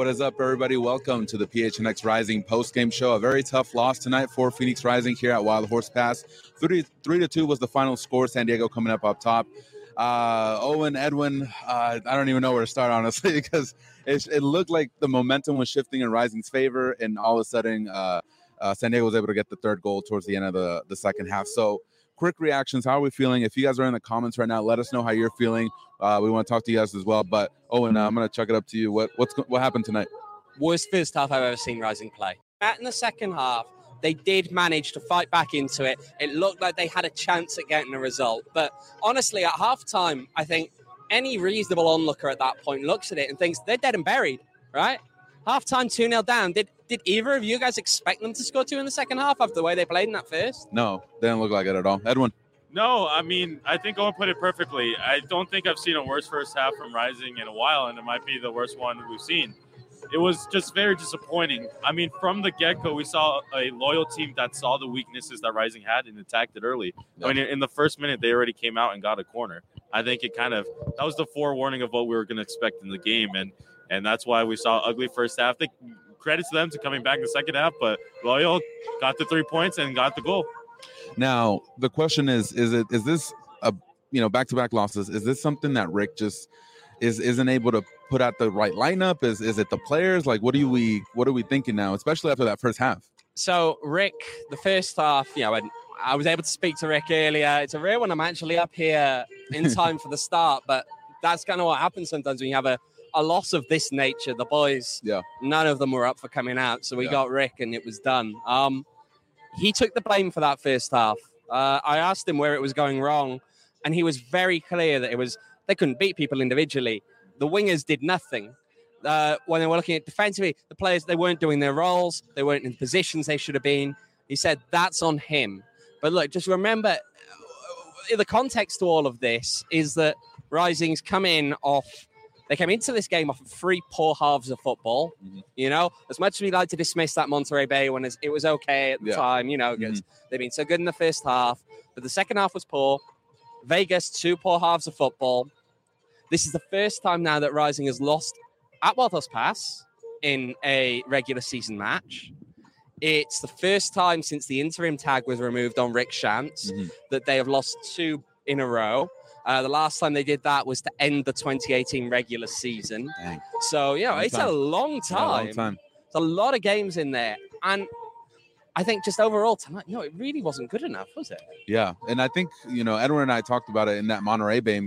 What is up, everybody? Welcome to the PHNX Rising post-game show. A very tough loss tonight for Phoenix Rising here at Wild Horse Pass. 3-2 was the final score. San Diego coming up top. Owen, Edwin, I don't even know where to start, honestly, because it looked like the momentum was shifting in Rising's favor, and all of a sudden San Diego was able to get the third goal towards the end of the second half. So quick reactions. How are we feeling? If you guys are in the comments right now, let us know how you're feeling. We want to talk to you guys as well. But Owen, I'm going to chuck it up to you. What happened tonight? Worst first half I've ever seen Rising play. In the second half, they did manage to fight back into it. It looked like they had a chance at getting a result. But honestly, at halftime, I think any reasonable onlooker at that point looks at it and thinks they're dead and buried, right? Halftime 2-0 down. Did either of you guys expect them to score 2 in the second half after the way they played in that first? No, didn't look like it at all. Edwin? No, I mean, I think Owen put it perfectly. I don't think I've seen a worse first half from Rising in a while, and it might be the worst one we've seen. It was just very disappointing. I mean, from the get-go, we saw a loyal team that saw the weaknesses that Rising had and attacked it early. Yeah. I mean, in the first minute, they already came out and got a corner. I think that was the forewarning of what we were going to expect in the game, and that's why we saw ugly first half. Credits to them to coming back in the second half, but Loyal got the 3 points and got the goal. Now, the question is this back-to-back losses? Is this something that Rick just isn't able to put out the right lineup? Is it the players? Like, what are we thinking now, especially after that first half? So Rick, the first half, I was able to speak to Rick earlier. It's a rare one I'm actually up here in time for the start, but that's kind of what happens sometimes when you have a loss of this nature. The boys, none of them were up for coming out, so we got Rick and it was done. He took the blame for that first half. I asked him where it was going wrong, and he was very clear that they couldn't beat people individually. The wingers did nothing. When they were looking at defensively, the players, they weren't doing their roles. They weren't in positions they should have been. He said, that's on him. But look, just remember, the context to all of this is that Rising's they came into this game off of 3 poor halves of football. Mm-hmm. As much as we like to dismiss that Monterey Bay one, it was okay at the time, because they've been so good in the first half. But the second half was poor. Vegas, 2 poor halves of football. This is the first time now that Rising has lost at Wild Horse Pass in a regular season match. It's the first time since the interim tag was removed on Rick Shantz that they have lost 2 in a row. The last time they did that was to end the 2018 regular season. Dang. So, it's a long time. It's a lot of games in there. And I think just overall tonight, it really wasn't good enough, was it? Yeah. And I think, Edwin and I talked about it in that Monterey Bay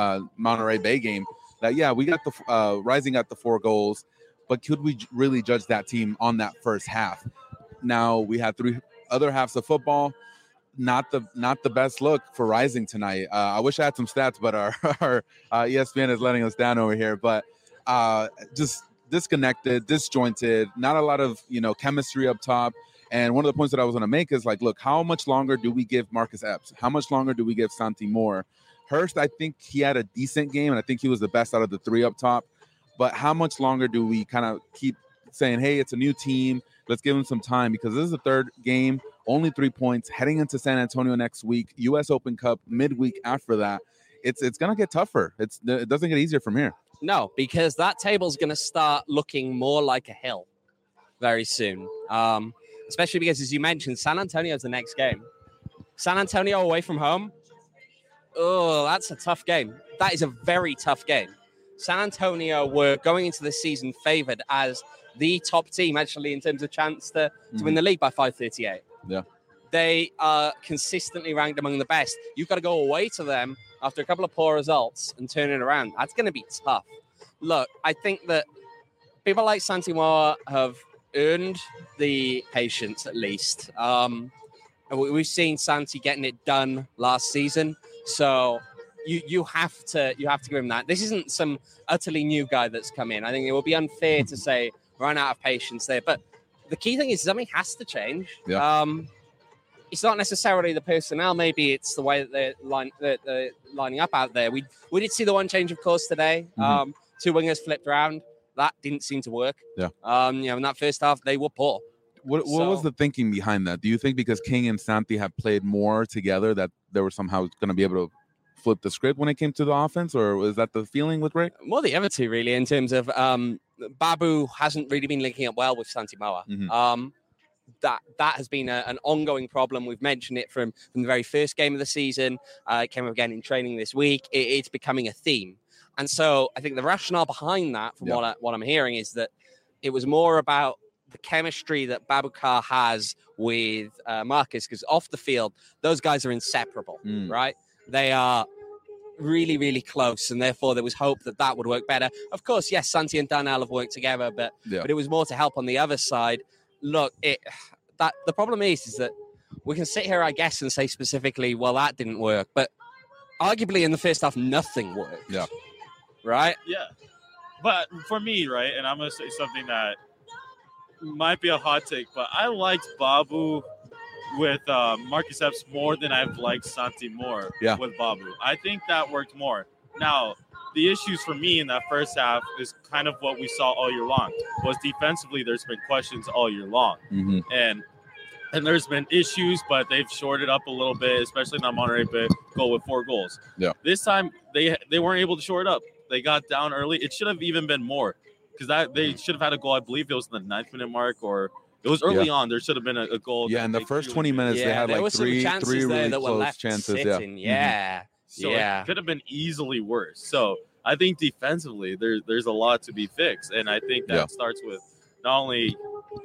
game that, we got the Rising got the 4 goals, but could we really judge that team on that first half? Now we had 3 other halves of football. Not the best look for Rising tonight. I wish I had some stats, but our ESPN is letting us down over here. But just disconnected, disjointed, not a lot of chemistry up top. And one of the points that I was going to make is look, how much longer do we give Marcus Epps? How much longer do we give Santi Moore? Hurst, I think he had a decent game, and I think he was the best out of the 3 up top. But how much longer do we kind of keep saying, hey, it's a new team, let's give him some time? Because this is the 3rd game. Only 3 points, heading into San Antonio next week, U.S. Open Cup midweek after that. It's going to get tougher. It doesn't get easier from here. No, because that table's going to start looking more like a hill very soon. Especially because, as you mentioned, San Antonio's the next game. San Antonio away from home. Oh, that's a tough game. That is a very tough game. San Antonio were going into this season favored as the top team, actually, in terms of chance to win the league by 538. Yeah. They are consistently ranked among the best. You've got to go away to them after a couple of poor results and turn it around. That's going to be tough. Look, I think that people like Santi Moore have earned the patience, at least. We've seen Santi getting it done last season, so you have to give him that. This isn't some utterly new guy that's come in. I think it would be unfair to say run out of patience there, but the key thing is something has to change. Yeah. It's not necessarily the personnel. Maybe it's the way that they're lining up out there. We did see the one change, of course, today. 2 wingers flipped around. That didn't seem to work. Yeah. In that first half, they were poor. What was the thinking behind that? Do you think because King and Santi have played more together that they were somehow going to be able to flip the script when it came to the offense, or was that the feeling with Rick? Well, the other two, really, in terms of Babu hasn't really been linking up well with Santi Moa. Mhm. That has been an ongoing problem. We've mentioned it from the very first game of the season. It came up again in training this week. It's becoming a theme. And so I think the rationale behind that, from what I'm hearing, is that it was more about the chemistry that Babukar has with Marcus, because off the field, those guys are inseparable, right? They are really, really close, and therefore there was hope that would work better. Of course, yes, Santi and Darnell have worked together, but it was more to help on the other side. Look, the problem is that we can sit here, I guess, and say specifically, well, that didn't work, but arguably in the first half, nothing worked. Yeah. Right? Yeah. But for me, right, and I'm going to say something that might be a hot take, but I liked Babu with Marcus Epps more than I've liked Santi more with Babu. I think that worked more. Now, the issues for me in that first half is kind of what we saw all year long. Was defensively, there's been questions all year long. Mm-hmm. And there's been issues, but they've shorted up a little bit, especially in that Monterrey goal with 4 goals. Yeah. This time, they weren't able to shore it up. They got down early. It should have even been more, because they should have had a goal. I believe it was in the 9th minute mark, or it was early on. There should have been a goal. Yeah, in the first 20 minutes, they had like three really close chances. Sitting. Yeah. So it could have been easily worse. So I think defensively, there's a lot to be fixed, and I think that starts with not only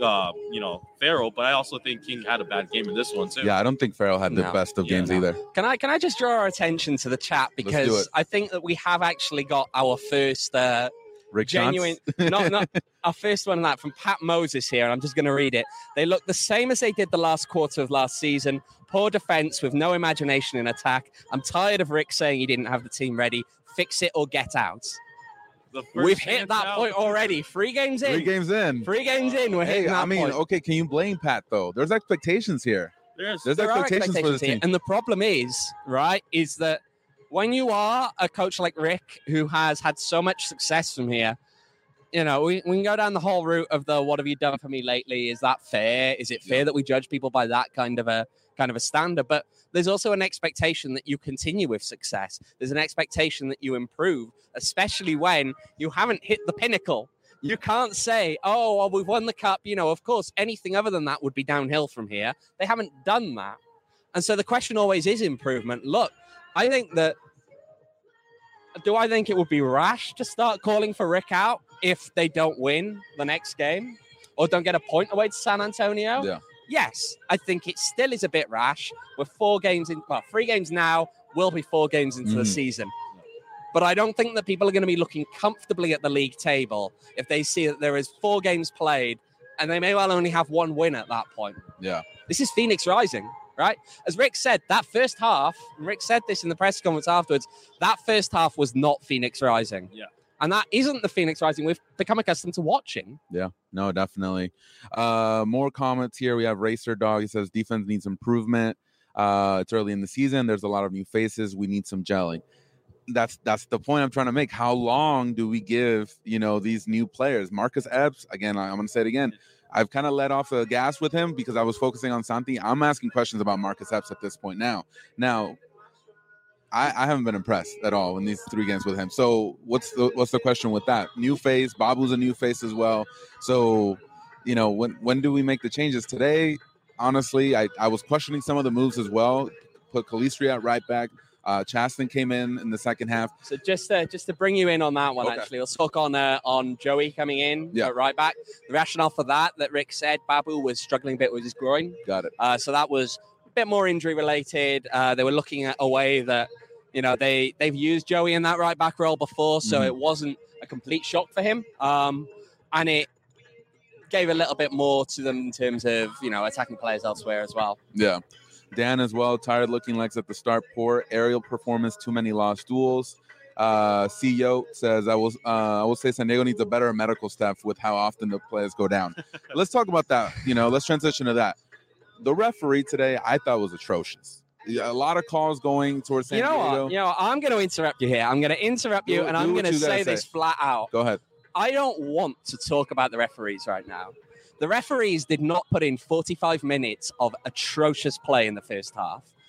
Farrell, but I also think King had a bad game in this one too. Yeah, I don't think Farrell had the best of games either. Can I just draw our attention to the chat, because I think that we have actually got our first Rick genuine, not our first one on that, from Pat Moses here, and I'm just going to read it. They look the same as they did the last quarter of last season. Poor defense with no imagination in attack. I'm tired of Rick saying he didn't have the team ready. Fix it or get out. We've hit that point already. 3 games in. 3 games in. 3 games in. We're hitting that point. Okay, can you blame Pat, though? There's expectations here. There's expectations for this team. And the problem is that when you are a coach like Rick, who has had so much success from here, we can go down the whole route of the what have you done for me lately? Is that fair? Is it fair that we judge people by that kind of a standard? But there's also an expectation that you continue with success. There's an expectation that you improve, especially when you haven't hit the pinnacle. You can't say, oh, well, we've won the cup. Of course, anything other than that would be downhill from here. They haven't done that. And so the question always is improvement. Look, I think it would be rash to start calling for Rick out if they don't win the next game or don't get a point away to San Antonio? Yeah. Yes, I think it still is a bit rash. We're 4 games in, 3 games now, will be 4 games into the season. But I don't think that people are going to be looking comfortably at the league table if they see that there is 4 games played and they may well only have 1 win at that point. Yeah. This is Phoenix Rising, right? As Rick said, that first half, and Rick said this in the press conference afterwards, that first half was not Phoenix Rising. Yeah. And that isn't the Phoenix Rising we've become accustomed to watching. Yeah, no, definitely. More comments here. We have Racer Dog. He says defense needs improvement. It's early in the season. There's a lot of new faces. We need some gelling. That's the point I'm trying to make. How long do we give, these new players? Marcus Epps, again, I'm going to say it again. I've kind of let off the gas with him because I was focusing on Santi. I'm asking questions about Marcus Epps at this point now. I haven't been impressed at all in these 3 games with him. So what's the question with that? New face, Babu's a new face as well. So, when do we make the changes? Today, honestly, I was questioning some of the moves as well. Put Calistri at right back. Chaston came in the second half. So just to bring you in on that one, actually, let's talk on Joey coming in at right back. The rationale for that Rick said Babu was struggling a bit with his groin. Got it. So that was bit more injury related. They were looking at a way that they've used Joey in that right back role before, so it wasn't a complete shock for him, and it gave a little bit more to them in terms of attacking players elsewhere as well. Yeah, Dan as well. Tired looking legs at the start. Poor aerial performance. Too many lost duels. CEO says I will say San Diego needs a better medical staff with how often the players go down. Let's talk about that. Let's transition to that. The referee today, I thought, was atrocious. A lot of calls going towards San Diego. What? I'm going to interrupt you here. I'm going to interrupt you, and I'm going to say this flat out. Go ahead. I don't want to talk about the referees right now. The referees did not put in 45 minutes of atrocious play in the first half.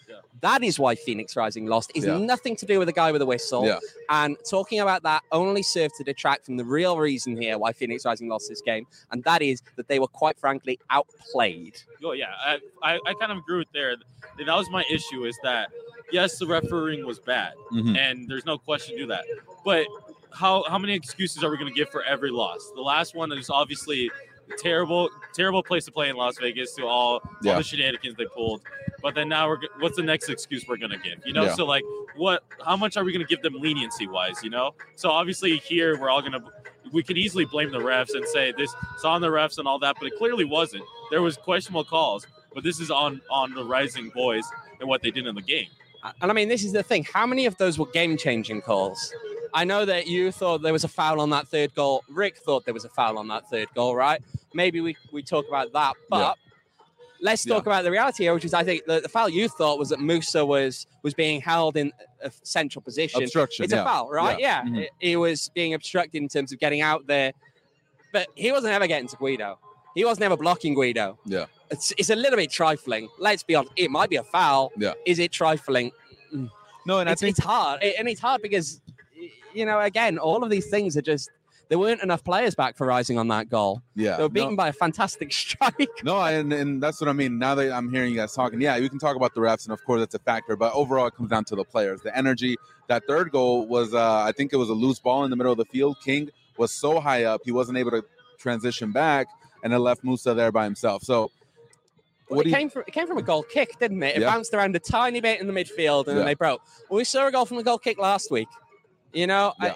Yeah. That is why Phoenix Rising lost. It's Yeah. nothing to do with the guy with the whistle. Yeah. And talking about that only served to detract from the real reason here why Phoenix Rising lost this game, and that is that they were quite frankly outplayed. Oh yeah, I kind of agree with there. And that was my issue is that yes, the refereeing was bad, Mhm. and there's no question to that. But how many excuses are we going to give for every loss? The last one is obviously a terrible place to play in Las Vegas to all the shenanigans they pulled. But then now what's the next excuse we're going to give? You know, Yeah. so like how much are we going to give them leniency wise? You know, so obviously here we could easily blame the refs and say this is on the refs and all that, but it clearly wasn't. There was questionable calls, but this is on the Rising boys and what they did in the game. And I mean, this is the thing. How many of those were game-changing calls? I know that you thought there was a foul on that third goal. Rick thought there was a foul on that third goal, right? Maybe we talk about that. But let's talk about the reality here, which is I think the foul you thought was that Musa was being held in a central position. Obstruction. It's a foul, right? Yeah. Mhm. He was being obstructed in terms of getting out there. But he wasn't ever getting to Guido. He was never blocking Guido. Yeah. It's a little bit trifling. Let's be honest. It might be a foul. Yeah. Is it trifling? No, and I think It's hard. And it's hard because, you know, again, all of these things are just, there weren't enough players back for Rising on that goal. yeah. They were beaten by a fantastic strike. No, and that's what I mean. Now that I'm hearing you guys talking, yeah, we can talk about the refs, and of course that's a factor. But overall, it comes down to the players, the energy. That third goal was, I think it was a loose ball in the middle of the field. King was so high up, he wasn't able to transition back, and it left Musa there by himself. So, Well, it came from a goal kick, didn't it? It Yeah. bounced around a tiny bit in the midfield, and then they broke. Well, we saw a goal from the goal kick last week. You know, Yeah.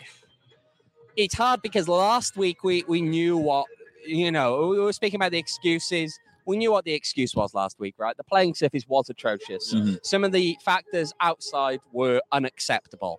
it's hard because last week we knew what, you know, we were speaking about the excuses. We knew what the excuse was last week, right? The playing surface was atrocious. Mhm. Some of the factors outside were unacceptable.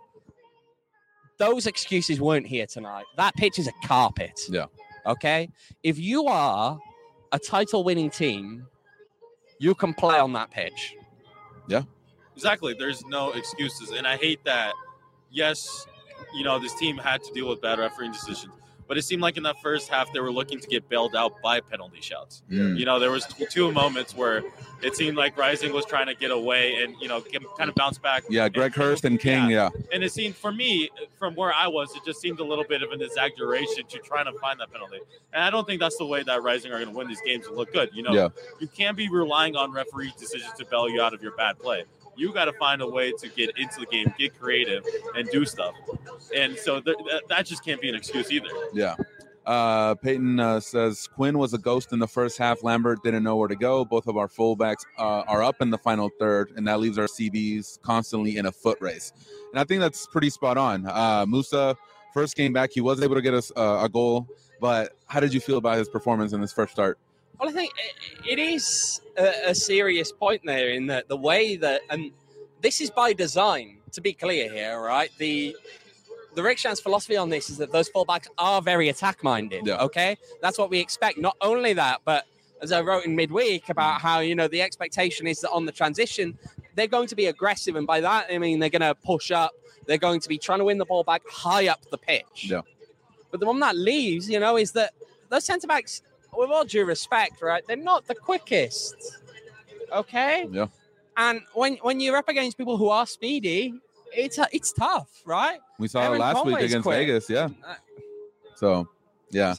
Those excuses weren't here tonight. That pitch is a carpet. Yeah. Okay? If you are a title-winning team, you can play on that pitch. Exactly. There's no excuses. And I hate that, yes, you know, this team had to deal with bad refereeing decisions. But it seemed like in that first half, they were looking to get bailed out by penalty shouts. Mm. You know, there was two moments where it seemed like Rising was trying to get away and, you know, kind of bounce back. yeah, Greg Hurst and King, yeah. And it seemed, for me, from where I was, it just seemed a little bit of an exaggeration to trying to find that penalty. And I don't think that's the way that Rising are going to win these games and look good. You know, Yeah. you can't be relying on referee decisions to bail you out of your bad play. You got to find a way to get into the game, get creative, and do stuff. And so that just can't be an excuse either. Yeah. Peyton says Quinn was a ghost in the first half. Lambert didn't know where to go. Both of our fullbacks are up in the final third, and that leaves our CBs constantly in a foot race. And I think that's pretty spot on. Musa, first game back, he was able to get us a goal. But how did you feel about his performance in his first start? Well, I think it is a serious point there in that the way that, and this is by design, to be clear here, right? The Rick Shan's philosophy on this is that those fullbacks are very attack-minded, Yeah. okay? That's what we expect. Not only that, but as I wrote in midweek about how, you know, the expectation is that on the transition, they're going to be aggressive. And by that, I mean, they're going to push up. They're going to be trying to win the ball back high up the pitch. Yeah. But the one that leaves, you know, is that those centre-backs, with all due respect, right, they're not the quickest, okay? Yeah. And when you're up against people who are speedy, it's tough, right? We saw Aaron it last week Conway's against quick. Vegas, yeah. Uh, So, yeah.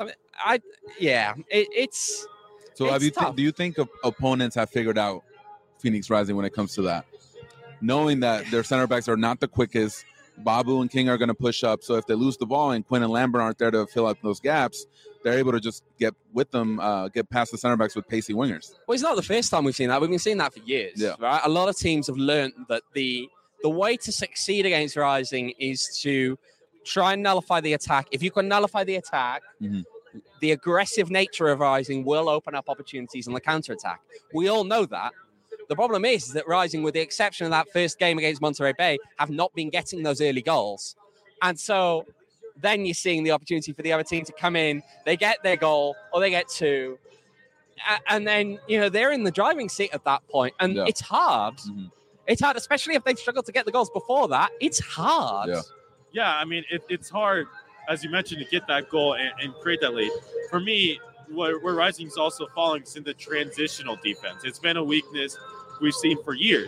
It's So have it's you tough. do you think opponents have figured out Phoenix Rising when it comes to that? Knowing that their center backs are not the quickest, Babu and King are going to push up. So if they lose the ball and Quinn and Lambert aren't there to fill up those gaps, they're able to just get with them, get past the center backs with pacey wingers. Well, it's not the first time we've seen that. We've been seeing that for years. Yeah. Right? A lot of teams have learned that the way to succeed against Rising is to try and nullify the attack. If you can nullify the attack, Mhm. the aggressive nature of Rising will open up opportunities on the counter-attack. We all know that. The problem is that Rising, with the exception of that first game against Monterey Bay, have not been getting those early goals. And so then you're seeing the opportunity for the other team to come in, they get their goal, or they get two, and then, you know, they're in the driving seat at that point. And Yeah. it's hard. Mhm. It's hard, especially if they've struggled to get the goals before that. It's hard. Yeah. Yeah, I mean, it's hard, as you mentioned, to get that goal and create that lead. For me, where Rising is also falling is in the transitional defense. It's been a weakness we've seen for years.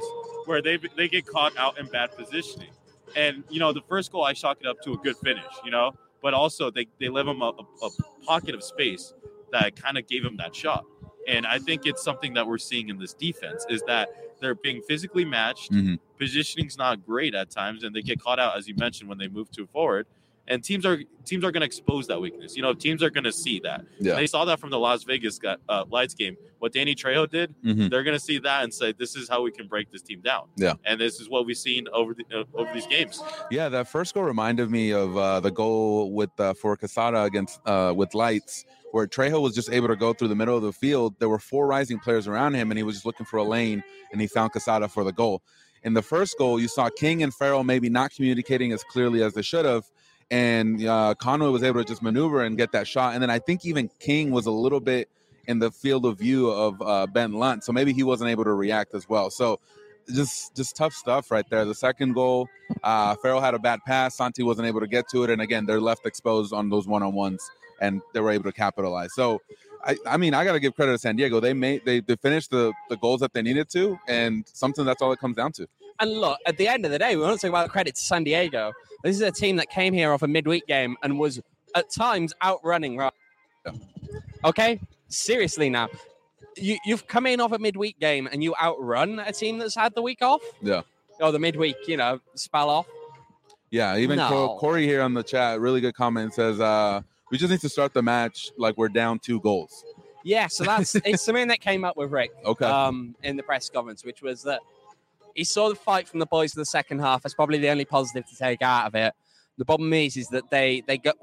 where they get caught out in bad positioning. And, the first goal, I chalk it up to a good finish, but also they leave them a pocket of space that kind of gave them that shot. And I think it's something that we're seeing in this defense is that they're being physically matched. Positioning's not great at times, and they get caught out, as you mentioned, when they move to forward. And teams are going to expose that weakness. Teams are going to see that. Yeah. They saw that from the Las Vegas Lights game. What Danny Trejo did, they're going to see that and say, this is how we can break this team down. Yeah. And this is what we've seen over these games. Yeah, that first goal reminded me of the goal with for Quesada against with Lights, where Trejo was just able to go through the middle of the field. There were 4 Rising players around him, and he was just looking for a lane, and he found Quesada for the goal. In the first goal, you saw King and Farrell maybe not communicating as clearly as they should have, and Conway was able to just maneuver and get that shot. And then I think even King was a little bit in the field of view of Ben Lunt, so maybe he wasn't able to react as well. So just tough stuff right there. The second goal, Farrell had a bad pass. Santi wasn't able to get to it, and again, they're left exposed on those one-on-ones, and they were able to capitalize. So, I mean, I got to give credit to San Diego. They finished the goals that they needed to, and something that's all it comes down to. And look, at the end of the day, we want to talk about credit to San Diego. This is a team that came here off a midweek game and was at times outrunning. Right? Yeah. Okay, seriously now. You've come in off a midweek game and you outrun a team that's had the week off? Yeah. Or the midweek, spell off? Yeah, even Corey here on the chat, really good comment, says, we just need to start the match like we're down 2 goals. Yeah, so it's something that came up with Rick in the press conference, which was that he saw the fight from the boys in the second half. That's probably the only positive to take out of it. The problem is that they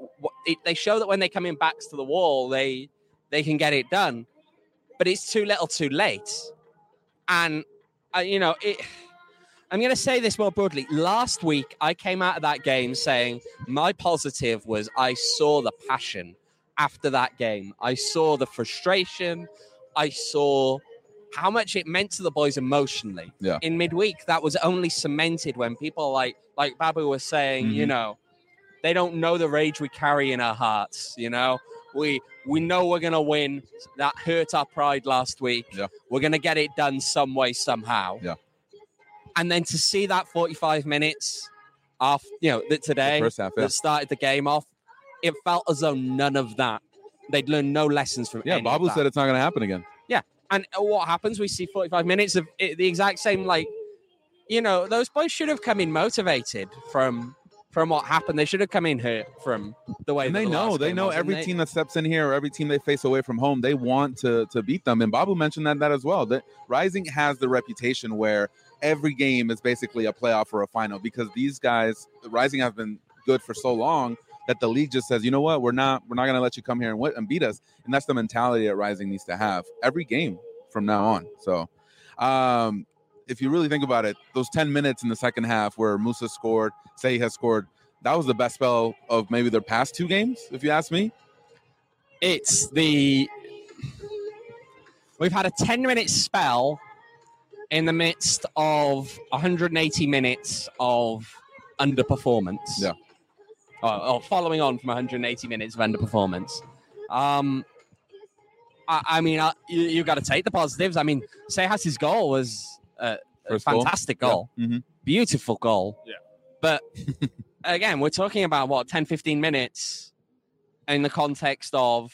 show that when they come in backs to the wall, they can get it done. But it's too little too late. And, I'm going to say this more broadly. Last week, I came out of that game saying my positive was I saw the passion after that game. I saw the frustration. I saw how much it meant to the boys emotionally. Yeah. In midweek, that was only cemented when people like Babu was saying, they don't know the rage we carry in our hearts, We know we're going to win. That hurt our pride last week. Yeah. We're going to get it done some way, somehow. Yeah. And then to see that 45 minutes off, that today, the first half, that started the game off, it felt as though none of that. They'd learned no lessons from any Babu of that. said it's not going to happen again. Yeah. And what happens? We see 45 minutes of the exact same, those boys should have come in motivated from what happened. They should have come in hurt from the way. And they know every team that steps in here or every team they face away from home, they want to beat them. And Babu mentioned that as well. That Rising has the reputation where every game is basically a playoff or a final, because these guys, Rising, have been good for so long that the league just says, you know what, we're not going to let you come here and beat us. And that's the mentality that Rising needs to have every game from now on. So if you really think about it, those 10 minutes in the second half where Musa scored, Sei has scored, that was the best spell of maybe their past 2 games, if you ask me. We've had a 10-minute spell in the midst of 180 minutes of underperformance. Yeah. Or following on from 180 minutes of underperformance. You've got to take the positives. I mean, Seiha's goal was a fantastic goal. Yeah. Mm-hmm. Beautiful goal. Yeah. But again, we're talking about 10, 15 minutes in the context of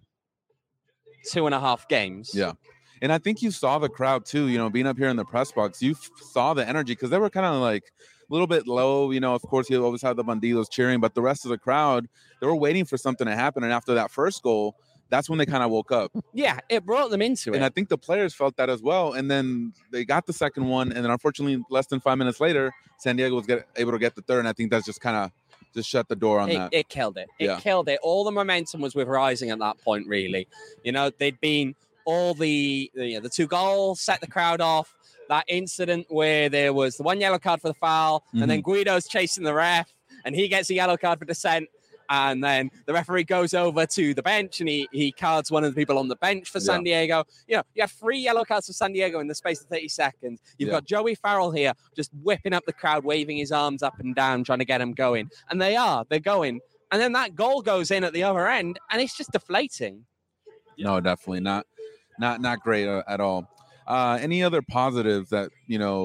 2.5 games. Yeah. And I think you saw the crowd too, being up here in the press box, you saw the energy, because they were kind of like a little bit low. Of course, you always had the Bandidos cheering, but the rest of the crowd, they were waiting for something to happen. And after that first goal, that's when they kind of woke up. Yeah, it brought them into it. And I think the players felt that as well. And then they got the second one. And then unfortunately, less than 5 minutes later, San Diego was able to get the third. And I think that's just kind of just shut the door on that. It killed it. It killed it. All the momentum was with Rising at that point, really. They'd been all the 2 goals, set the crowd off. That incident where there was the 1 yellow card for the foul, and then Guido's chasing the ref, and he gets a yellow card for dissent. And then the referee goes over to the bench and he cards one of the people on the bench for San Diego. You have 3 yellow cards for San Diego in the space of 30 seconds. You've got Joey Farrell here just whipping up the crowd, waving his arms up and down, trying to get them going. And they're going. And then that goal goes in at the other end, and it's just deflating. No, definitely not great at all. Any other positives that,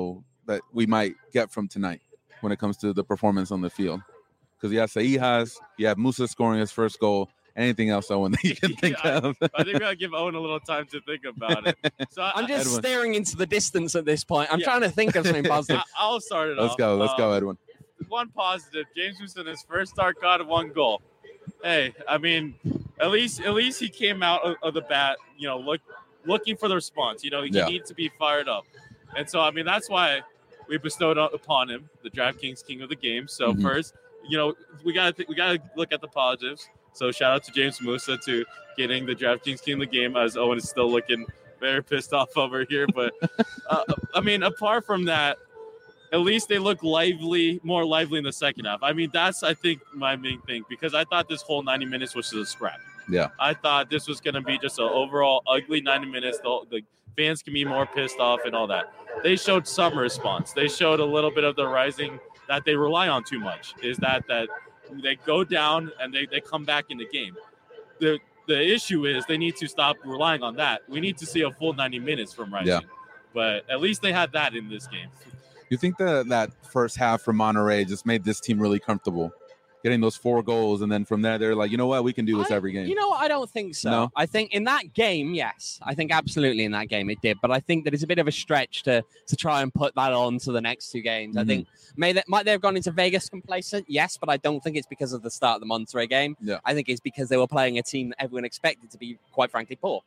that we might get from tonight when it comes to the performance on the field? Because you have Seijas, you have Musa scoring his first goal. Anything else, Owen, that you can think of? I think we gotta give Owen a little time to think about it. So I'm just Edwin. staring into the distance at this point. I'm Yeah. trying to think of something positive. I'll start it Let's off. go. Let's go, Edwin. One positive: James Musa in his first start got 1 goal. Hey, I mean, at least he came out of the bat, looking for the response. He needs to be fired up, and so I mean that's why we bestowed upon him the DraftKings King of the Game. So first, we gotta look at the positives. So shout out to James Musa to getting the DraftKings King of the Game, as Owen is still looking very pissed off over here. But I mean, apart from that, at least they look more lively in the second half. I mean, that's, I think, my main thing, because I thought this whole 90 minutes was just a scrap. Yeah. I thought this was going to be just an overall ugly 90 minutes. The fans can be more pissed off and all that. They showed some response. They showed a little bit of the rising that they rely on too much, is that they go down and they come back in the game. The issue is they need to stop relying on that. We need to see a full 90 minutes from Rising. Yeah. But at least they had that in this game. You think that first half from Monterrey just made this team really comfortable, getting those 4 goals, and then from there they're like, you know what, we can do this every game. You know what? I don't think so. No? I think in that game, yes. I think absolutely in that game it did. But I think that it's a bit of a stretch to try and put that on to the next 2 games. I think might they have gone into Vegas complacent? Yes, but I don't think it's because of the start of the Monterrey game. Yeah. I think it's because they were playing a team that everyone expected to be, quite frankly, poor.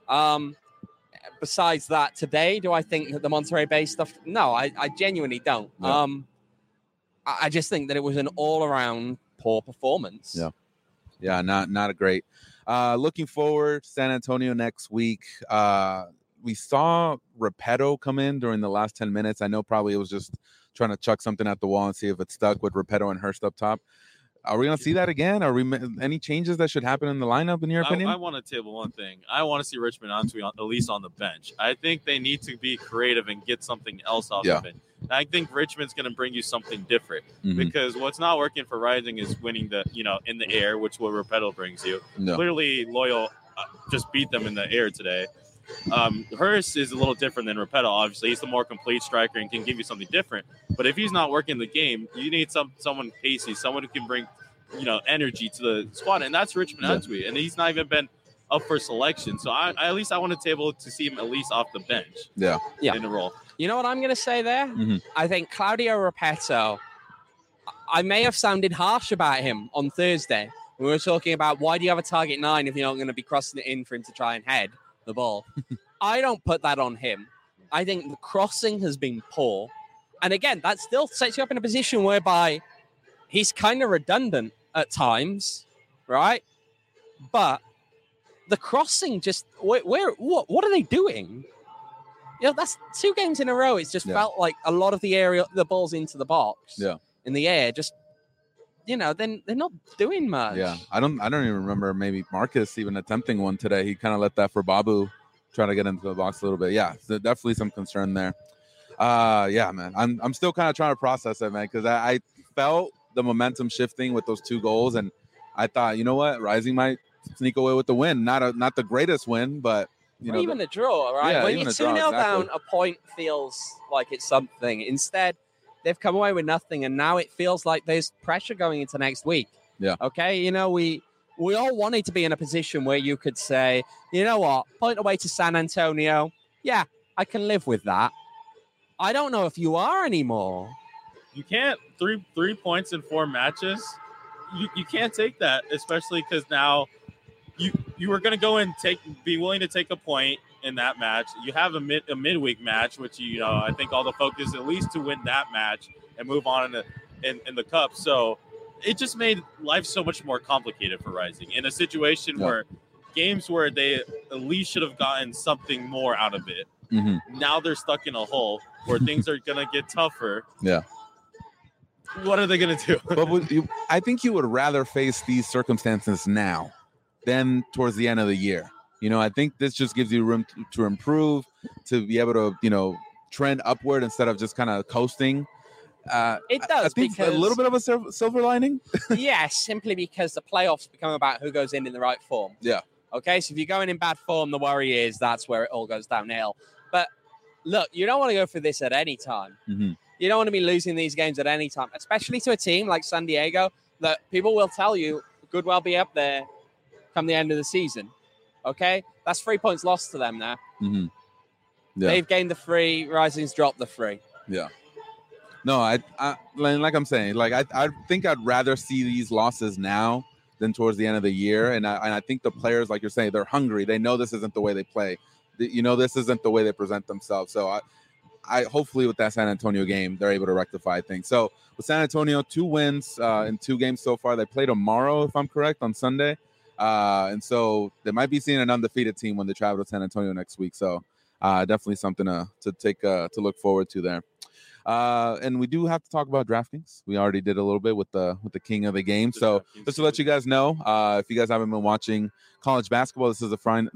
Besides that, today, do I think that the Monterrey Bay stuff? No, I genuinely don't. Yeah. I just think that it was an all-around poor performance. Yeah. Yeah, not a great. Looking forward, San Antonio next week. We saw Repetto come in during the last 10 minutes. I know probably it was just trying to chuck something at the wall and see if it stuck with Repetto and Hurst up top. Are we going to see that again? Are we any changes that should happen in the lineup, in your opinion? I want to table one thing. I want to see Richmond Antwi at least on the bench. I think they need to be creative and get something else off of it. I think Richmond's going to bring you something different, because what's not working for Rising is winning in the air, which what Repetto brings you. No. Clearly, Loyal just beat them in the air today. Hurst is a little different than Repetto. Obviously, he's the more complete striker and can give you something different. But if he's not working the game, you need someone pacey, someone who can bring energy to the squad, and that's Richmond Antwi, and he's not even been up for selection. So I want to table to see him at least off the bench. Yeah. In the role. You know what I'm going to say there? I think Claudio Repetto, I may have sounded harsh about him on Thursday. We were talking about, why do you have a target 9 if you're not going to be crossing it in for him to try and head the ball? I don't put that on him. I think the crossing has been poor. And again, that still sets you up in a position whereby he's kind of redundant at times, right? But the crossing just, what are they doing? That's 2 games in a row. It's just felt like a lot of the balls into the box in the air, just, then they're not doing much. Yeah, I don't even remember maybe Marcus even attempting one today. He kind of let that for Babu, trying to get into the box a little bit. Yeah, so definitely some concern there. Yeah, man, I'm still kind of trying to process it, man, because I felt the momentum shifting with those 2 goals, and I thought, you know what, Rising might sneak away with the win. Not the greatest win, but even a draw, right? Yeah, when you're 2-0 down, a point feels like it's something. Instead, they've come away with nothing, and now it feels like there's pressure going into next week. Yeah. Okay, we all wanted to be in a position where you could say, you know what, point away to San Antonio. Yeah, I can live with that. I don't know if you are anymore. You can't 3 points in 4 matches. You can't take that, especially because now you were going to go and be willing to take a point in that match. You have a midweek match, which I think all the focus at least to win that match and move on in the cup. So it just made life so much more complicated for Rising in a situation where games where they at least should have gotten something more out of it. Now they're stuck in a hole where things are going to get tougher. Yeah. What are they going to do? But I think you would rather face these circumstances now than towards the end of the year. I think this just gives you room to improve, to be able to, trend upward instead of just kind of coasting. It does. I think because, a little bit of a silver lining. Yes, simply because the playoffs become about who goes in the right form. Yeah. Okay, so if you're going in bad form, the worry is that's where it all goes downhill. But look, you don't want to go for this at any time. Mm-hmm. You don't want to be losing these games at any time, especially to a team like San Diego that people will tell you could well be up there come the end of the season. Okay? That's 3 points lost to them now. Mm-hmm. Yeah. They've gained the 3. Rising's dropped the 3. Yeah. No, I like I'm saying, like I think I'd rather see these losses now than towards the end of the year. And I think the players, like you're saying, they're hungry. They know this isn't the way they play. This isn't the way they present themselves. So I hopefully with that San Antonio game, they're able to rectify things. So with San Antonio, 2 wins in 2 games so far. They play tomorrow, if I'm correct, on Sunday. And so they might be seeing an undefeated team when they travel to San Antonio next week. So definitely something to take to look forward to there. And we do have to talk about DraftKings. We already did a little bit with the king of the game. So just to let you guys know, if you guys haven't been watching college basketball, this is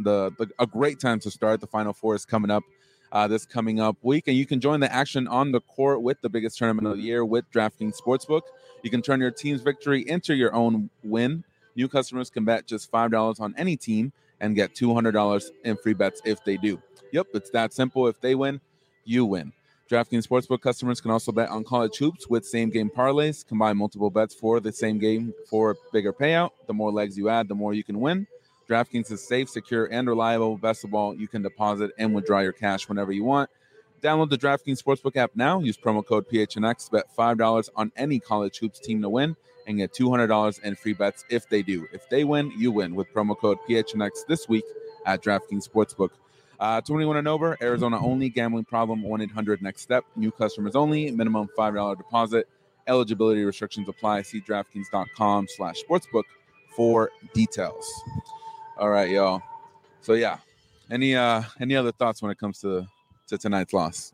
a great time to start. The Final Four is coming up this coming up week, and you can join the action on the court with the biggest tournament of the year with DraftKings Sportsbook. You can turn your team's victory into your own win. New customers can bet just $5 on any team and get $200 in free bets if they do. Yep, it's that simple. If they win, you win. DraftKings Sportsbook customers can also bet on college hoops with same-game parlays. Combine multiple bets for the same game for a bigger payout. The more legs you add, the more you can win. DraftKings is safe, secure, and reliable. Best of all, you can deposit and withdraw your cash whenever you want. Download the DraftKings Sportsbook app now. Use promo code PHNX. Bet $5 on any college hoops team to win and get $200 in free bets if they do. If they win, you win with promo code PHNX this week at DraftKings Sportsbook. 21 and over, Arizona only, gambling problem, 1-800-NEXT-STEP. New customers only, minimum $5 deposit. Eligibility restrictions apply. See DraftKings.com/sportsbook for details. All right, y'all. So, yeah, any other thoughts when it comes to tonight's loss?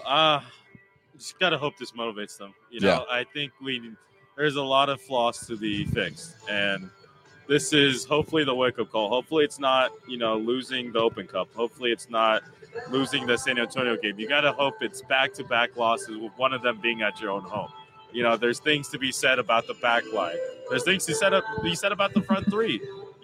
Just got to hope this motivates them. I think there's a lot of flaws to be fixed, and this is hopefully the wake-up call. Hopefully it's not, losing the Open Cup. Hopefully it's not losing the San Antonio game. You got to hope it's back-to-back losses with one of them being at your own home. There's things to be said about the back line. There's things to be said about the front 3.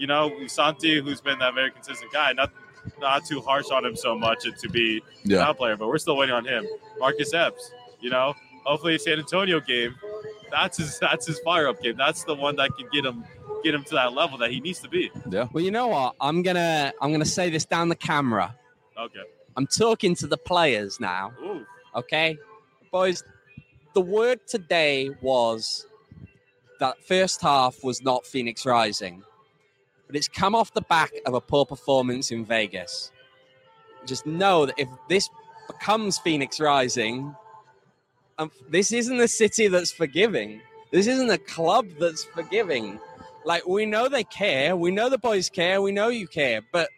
Santi, who's been that very consistent guy, not too harsh on him so much and to be an outplayer, but we're still waiting on him. Marcus Epps, hopefully San Antonio game, that's his fire-up game. That's the one that can get him to that level that he needs to be. Yeah. Well, you know what? I'm gonna say this down the camera. Okay. I'm talking to the players now. Ooh. Okay, boys. The word today was that first half was not Phoenix Rising, but it's come off the back of a poor performance in Vegas. Just know that if this becomes Phoenix Rising, this isn't a city that's forgiving. This isn't a club that's forgiving. Like, we know they care. We know the boys care. We know you care. But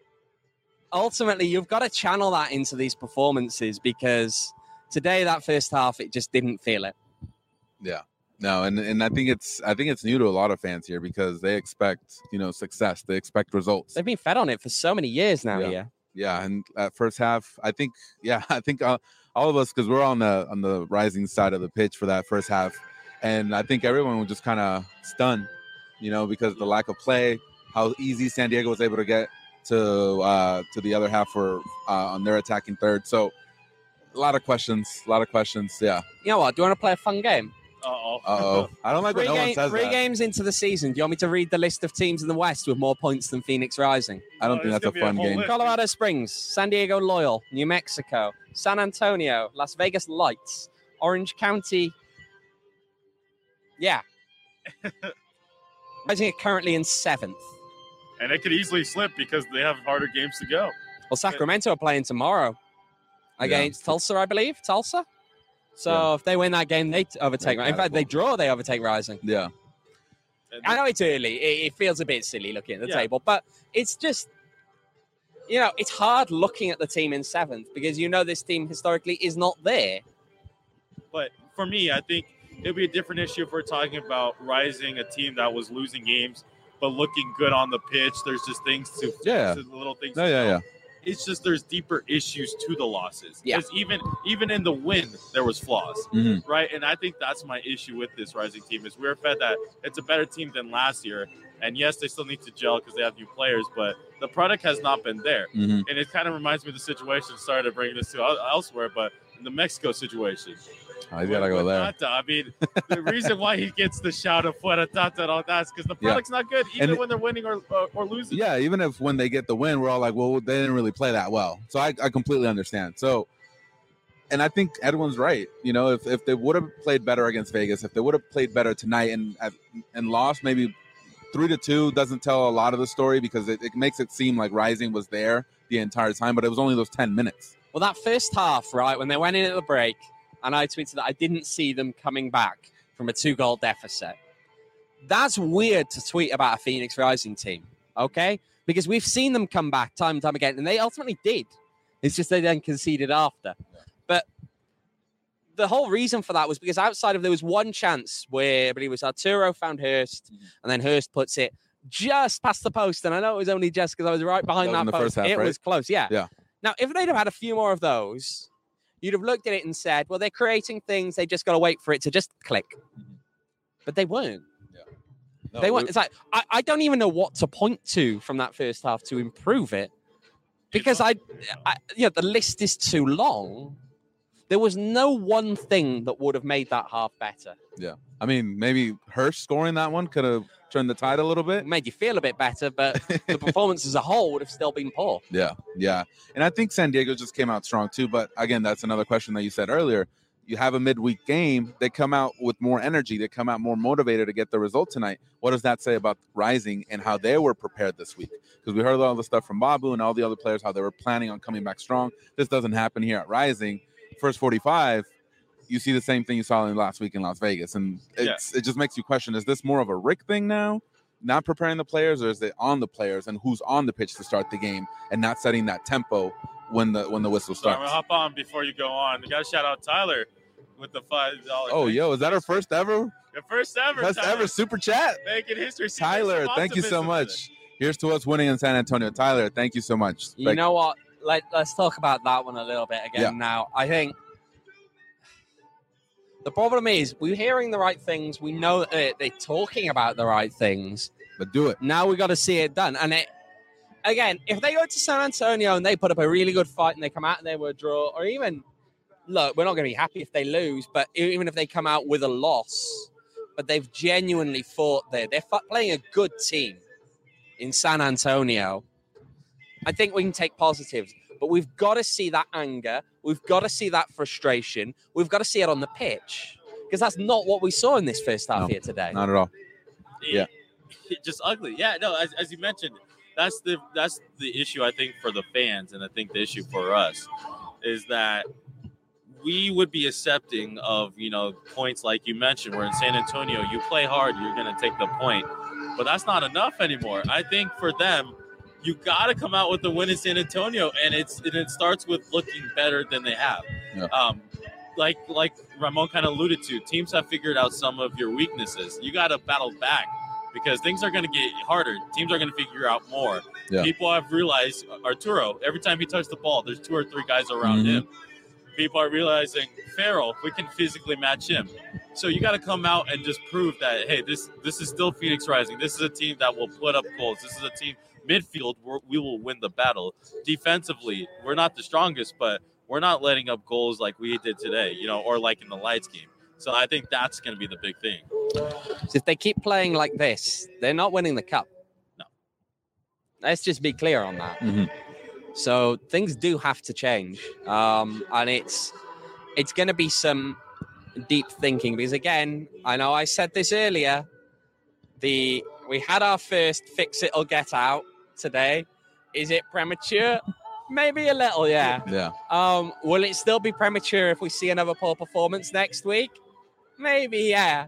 ultimately, you've got to channel that into these performances because today, that first half, it just didn't feel it. Yeah. No, and I think it's new to a lot of fans here because they expect, success. They expect results. They've been fed on it for so many years now here. Yeah, and at first half, I think all of us, because we're on the Rising side of the pitch for that first half, and I think everyone was just kind of stunned. Because of the lack of play, how easy San Diego was able to get to the other half on their attacking third. So a lot of questions. Yeah. You know what? Do you want to play a fun game? Uh-oh. I don't like when no one says three that. games into the season. Do you want me to read the list of teams in the West with more points than Phoenix Rising? I don't think that's a fun game. Colorado Springs, San Diego Loyal, New Mexico, San Antonio, Las Vegas Lights, Orange County. Yeah. Rising are currently in 7th. And it could easily slip because they have harder games to go. Well, Sacramento are playing tomorrow against Tulsa, I believe. Tulsa? So if they win that game, they overtake. In fact, they draw, they overtake Rising. Yeah. I know it's early. It feels a bit silly looking at the table, but it's just, it's hard looking at the team in 7th because this team historically is not there. But for me, I think it'll be a different issue if we're talking about Rising, a team that was losing games but looking good on the pitch. There's just things to little things. Yeah. It's just there's deeper issues to the losses. Yeah. Because even in the win, there was flaws, right? And I think that's my issue with this Rising team is we're fed that it's a better team than last year. And yes, they still need to gel because they have new players, but the product has not been there. Mhm. And it kind of reminds me of the situation, sorry to bring this to elsewhere, but in the Mexico situation. Oh, he's got to go there. Tata, I mean, the reason why he gets the shout of Fuera Tata and all that is because the product's not good, even when they're winning or losing. Yeah, even if when they get the win, we're all like, well, they didn't really play that well. So I completely understand. So, and I think Edwin's right. You know, if they would have played better against Vegas, if they would have played better tonight and lost maybe 3-2, doesn't tell a lot of the story because it makes it seem like Rising was there the entire time, but it was only those 10 minutes. Well, that first half, right, when they went in at the break, and I tweeted that I didn't see them coming back from a 2-goal deficit. That's weird to tweet about a Phoenix Rising team, okay? Because we've seen them come back time and time again, and they ultimately did. It's just they then conceded after. Yeah. But the whole reason for that was because outside of there was one chance where I believe it was Arturo found Hurst, and then Hurst puts it just past the post. And I know it was only just because I was right behind that post. It was close, yeah. Now, if they'd have had a few more of those, you'd have looked at it and said, well, they're creating things. They just got to wait for it to just click. But they weren't. Yeah. No, they weren't. It's like, I don't even know what to point to from that first half to improve it. Because the list is too long. There was no one thing that would have made that half better. Yeah. I mean, maybe Hurst scoring that one could have turned the tide a little bit. Made you feel a bit better, but the performance as a whole would have still been poor. Yeah. And I think San Diego just came out strong too. But again, that's another question that you said earlier. You have a midweek game. They come out with more energy. They come out more motivated to get the result tonight. What does that say about Rising and how they were prepared this week? Because we heard all the stuff from Babu and all the other players, how they were planning on coming back strong. This doesn't happen here at Rising. First 45, you see the same thing you saw in last week in Las Vegas. And it just makes you question, is this more of a Rick thing now, not preparing the players, or is it on the players and who's on the pitch to start the game and not setting that tempo when the whistle starts? So I'm going to hop on before you go on. You got to shout out Tyler with the $5. Oh, yo, is that our first ever? Your first ever. First ever super chat. Making history. Tyler, thank you so much. Here's to us winning in San Antonio. Tyler, thank you so much. You know what? Let's talk about that one a little bit again now. I think the problem is we're hearing the right things. We know that they're talking about the right things. But do it. Now we got to see it done. And again, if they go to San Antonio and they put up a really good fight and they come out and they were a draw, or even, look, we're not going to be happy if they lose, but even if they come out with a loss, but they've genuinely fought there. They're playing a good team in San Antonio. I think we can take positives, but we've got to see that anger. We've got to see that frustration. We've got to see it on the pitch because that's not what we saw in this first half here today. Not at all. Yeah. Just ugly. Yeah, no, as you mentioned, that's the issue, I think, for the fans, and I think the issue for us is that we would be accepting of, points like you mentioned, where in San Antonio, you play hard, you're going to take the point. But that's not enough anymore. I think for them, you got to come out with the win in San Antonio, and it starts with looking better than they have. Yeah. Like Ramon kind of alluded to, teams have figured out some of your weaknesses. You got to battle back because things are going to get harder. Teams are going to figure out more. Yeah. People have realized Arturo, every time he touches the ball, there's 2 or 3 guys around him. People are realizing Farrell, we can physically match him. So you got to come out and just prove that, hey, this is still Phoenix Rising. This is a team that will put up goals. This is a team midfield, we will win the battle. Defensively, we're not the strongest, but we're not letting up goals like we did today, or like in the Lights game. So I think that's going to be the big thing. So if they keep playing like this, they're not winning the cup. No. Let's just be clear on that. Mm-hmm. So things do have to change. And it's going to be some deep thinking because, again, I know I said this earlier, we had our first fix it or get out today. Is it premature? Maybe a little, yeah. Yeah. Will it still be premature if we see another poor performance next week? Maybe, yeah.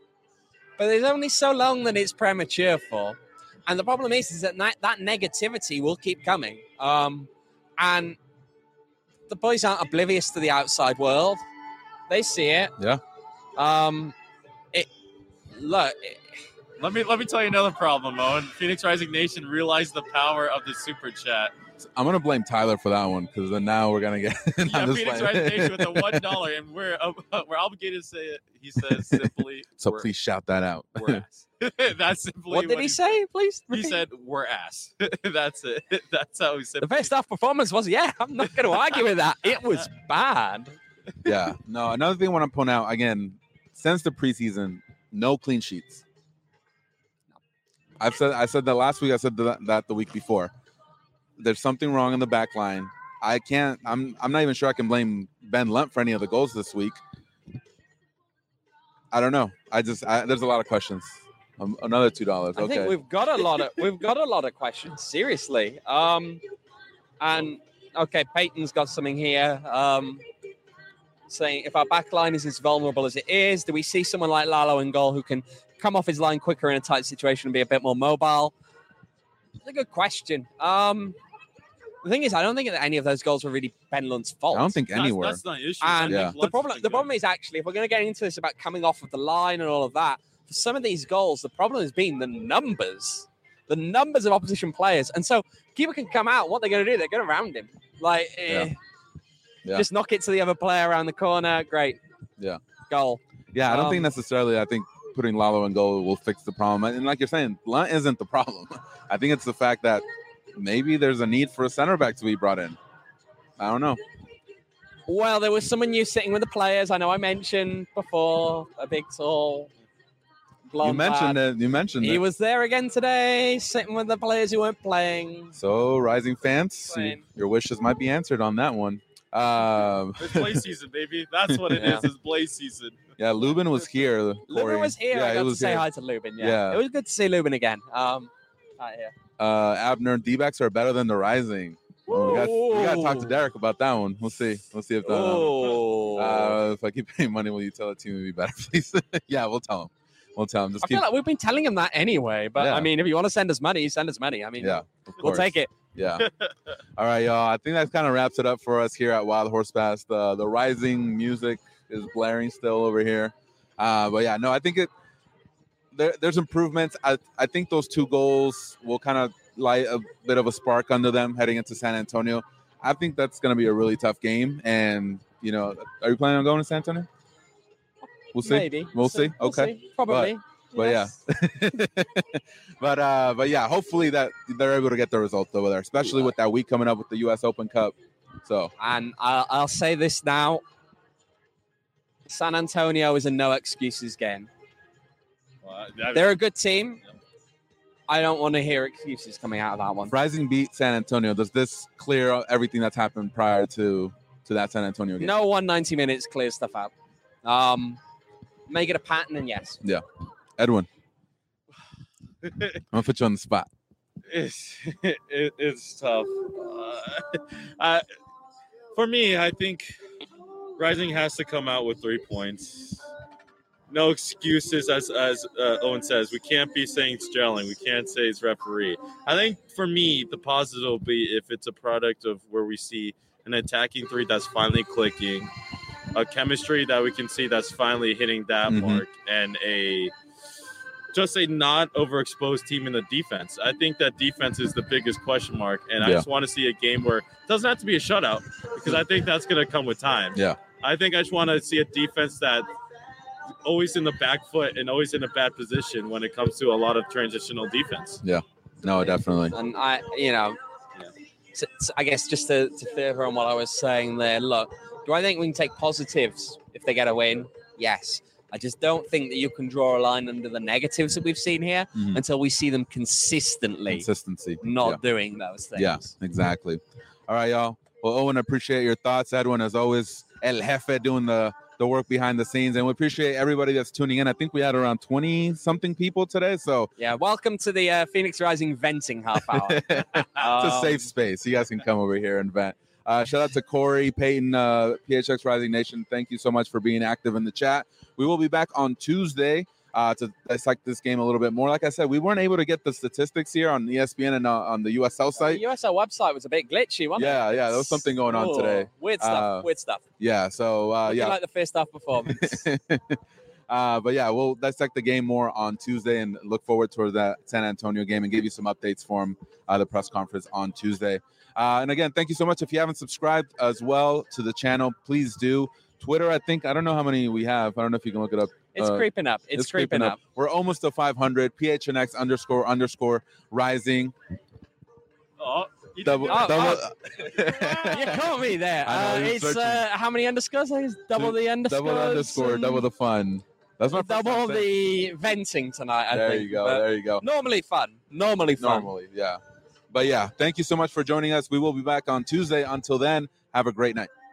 But there's only so long that it's premature for. And the problem is that that negativity will keep coming. And the boys aren't oblivious to the outside world. They see it. Yeah. Let me tell you another problem, Owen. Phoenix Rising Nation realized the power of the super chat. I'm gonna blame Tyler for that one because then now we're gonna get. Phoenix Rising Nation with the $1, and we're obligated to say it. He says simply. So please shout that out. We're ass. That's simply What did he say? Please. He repeat. said, "We're ass." That's it. That's how he said. The first half performance was, I'm not going to argue with that. It was bad. Yeah. No, another thing I want to point out again, since the preseason, no clean sheets. I said that last week. I said that the week before. There's something wrong in the back line. I'm not even sure I can blame Ben Lunt for any of the goals this week. I don't know. there's a lot of questions. Another $2. I think we've got a lot of questions. Seriously. And okay, Peyton's got something here. Saying if our back line is as vulnerable as it is, do we see someone like Lalo in goal who can come off his line quicker in a tight situation and be a bit more mobile? It's a good question. The thing is, I don't think that any of those goals were really Ben Lunt's fault. I don't think anywhere. That's not an issue. And Yeah. the problem is actually, if we're going to get into this about coming off of the line and all of that, for some of these goals, the problem has been the numbers of opposition players. And so keeper can come out. What they're going to do, they're going to round him. Like, Yeah. just knock it to the other player around the corner. Great. Yeah. Goal. Yeah, I don't think necessarily. I think putting Lalo in goal will fix the problem. And like you're saying, Lunt isn't the problem. I think it's the fact that maybe there's a need for a center back to be brought in. I don't know. Well, there was someone new sitting with the players. I know I mentioned before, a big, tall, blonde You mentioned lad. it. You mentioned He it. was there again today, sitting with the players who weren't playing. So, Rising fans, Playing. your wishes might be answered on that one. It's Blaze season, baby. That's what it Yeah. is. It's Blaze season. Yeah, Lubin was here. Lubin Corey. was here. Yeah, I he got to was say here. hi to Lubin. Yeah. Yeah. It was good to see Lubin again. Right here. Abner, D-backs are better than the Rising. Well, we got to talk to Derek about that one. We'll see. We'll see if if I keep paying money, will you tell the team to be better, please? Yeah, we'll tell him. Just I feel like we've been telling him that anyway. But Yeah. I mean, if you want to send us money, send us money. I mean, yeah, of we'll course. take it. Yeah. All right, y'all. I think that kind of wraps it up for us here at Wild Horse Pass. The Rising music is blaring still over here. But yeah, no, I think there's improvements. I think those 2 goals will kind of light a bit of a spark under them heading into San Antonio. I think that's going to be a really tough game. And, are you planning on going to San Antonio? We'll see. Maybe. We'll see. Okay. See. Probably. But Yes. but yeah, hopefully that they're able to get the result over there, especially with that week coming up with the U.S. Open Cup. So And I'll say this now. San Antonio is a no excuses game. Well, They're a good team. I don't want to hear excuses coming out of that one. if Rising beat San Antonio, does this clear everything that's happened prior to that San Antonio game? No 190 minutes clears stuff out. Make it a pattern, and yes. Edwin, I'm gonna put you on the spot. It's tough. For me, I think Rising has to come out with 3 points. No excuses, as Owen says. We can't be saying it's gelling. We can't say it's referee. I think for me, the positive will be if it's a product of where we see an attacking 3 that's finally clicking, a chemistry that we can see that's finally hitting that mark, and just a not overexposed team in the defense. I think that defense is the biggest question mark, and I just want to see a game where it doesn't have to be a shutout, because I think that's going to come with time. Yeah. I think I just want to see a defense that always in the back foot and always in a bad position when it comes to a lot of transitional defense. No, definitely. And I guess just to further on what I was saying there, look, do I think we can take positives if they get a win? Yes. I just don't think that you can draw a line under the negatives that we've seen here until we see them Consistency. not doing those things. Yeah, exactly. All right, y'all. Well, Owen, I appreciate your thoughts. Edwin, as always, El Jefe doing the work behind the scenes. And we appreciate everybody that's tuning in. I think we had around 20-something people today. So Yeah, welcome to the Phoenix Rising venting half hour. it's a safe space. You guys can come over here and vent. Shout out to Corey, Peyton, PHX Rising Nation. Thank you so much for being active in the chat. We will be back on Tuesday to dissect this game a little bit more. Like I said, we weren't able to get the statistics here on ESPN and on the USL site. The USL website was a bit glitchy, wasn't it? Yeah, there was something going on today. Weird stuff. Yeah, so Looking like the first half performance. but yeah, we'll dissect the game more on Tuesday and look forward to that San Antonio game and give you some updates from the press conference on Tuesday. And again, thank you so much. If you haven't subscribed as well to the channel, please do. Twitter, I don't know how many we have. I don't know if you can look it up. It's creeping up. It's creeping up. We're almost to 500. PHNX _ rising. Oh, Double. You caught me there. I know, It's how many underscores? I think it's double the underscores. Double underscore, double the fun. That's my double the venting tonight. I there think. you go. But There you go. Normally fun. Normally, yeah. But yeah, thank you so much for joining us. We will be back on Tuesday. Until then, have a great night.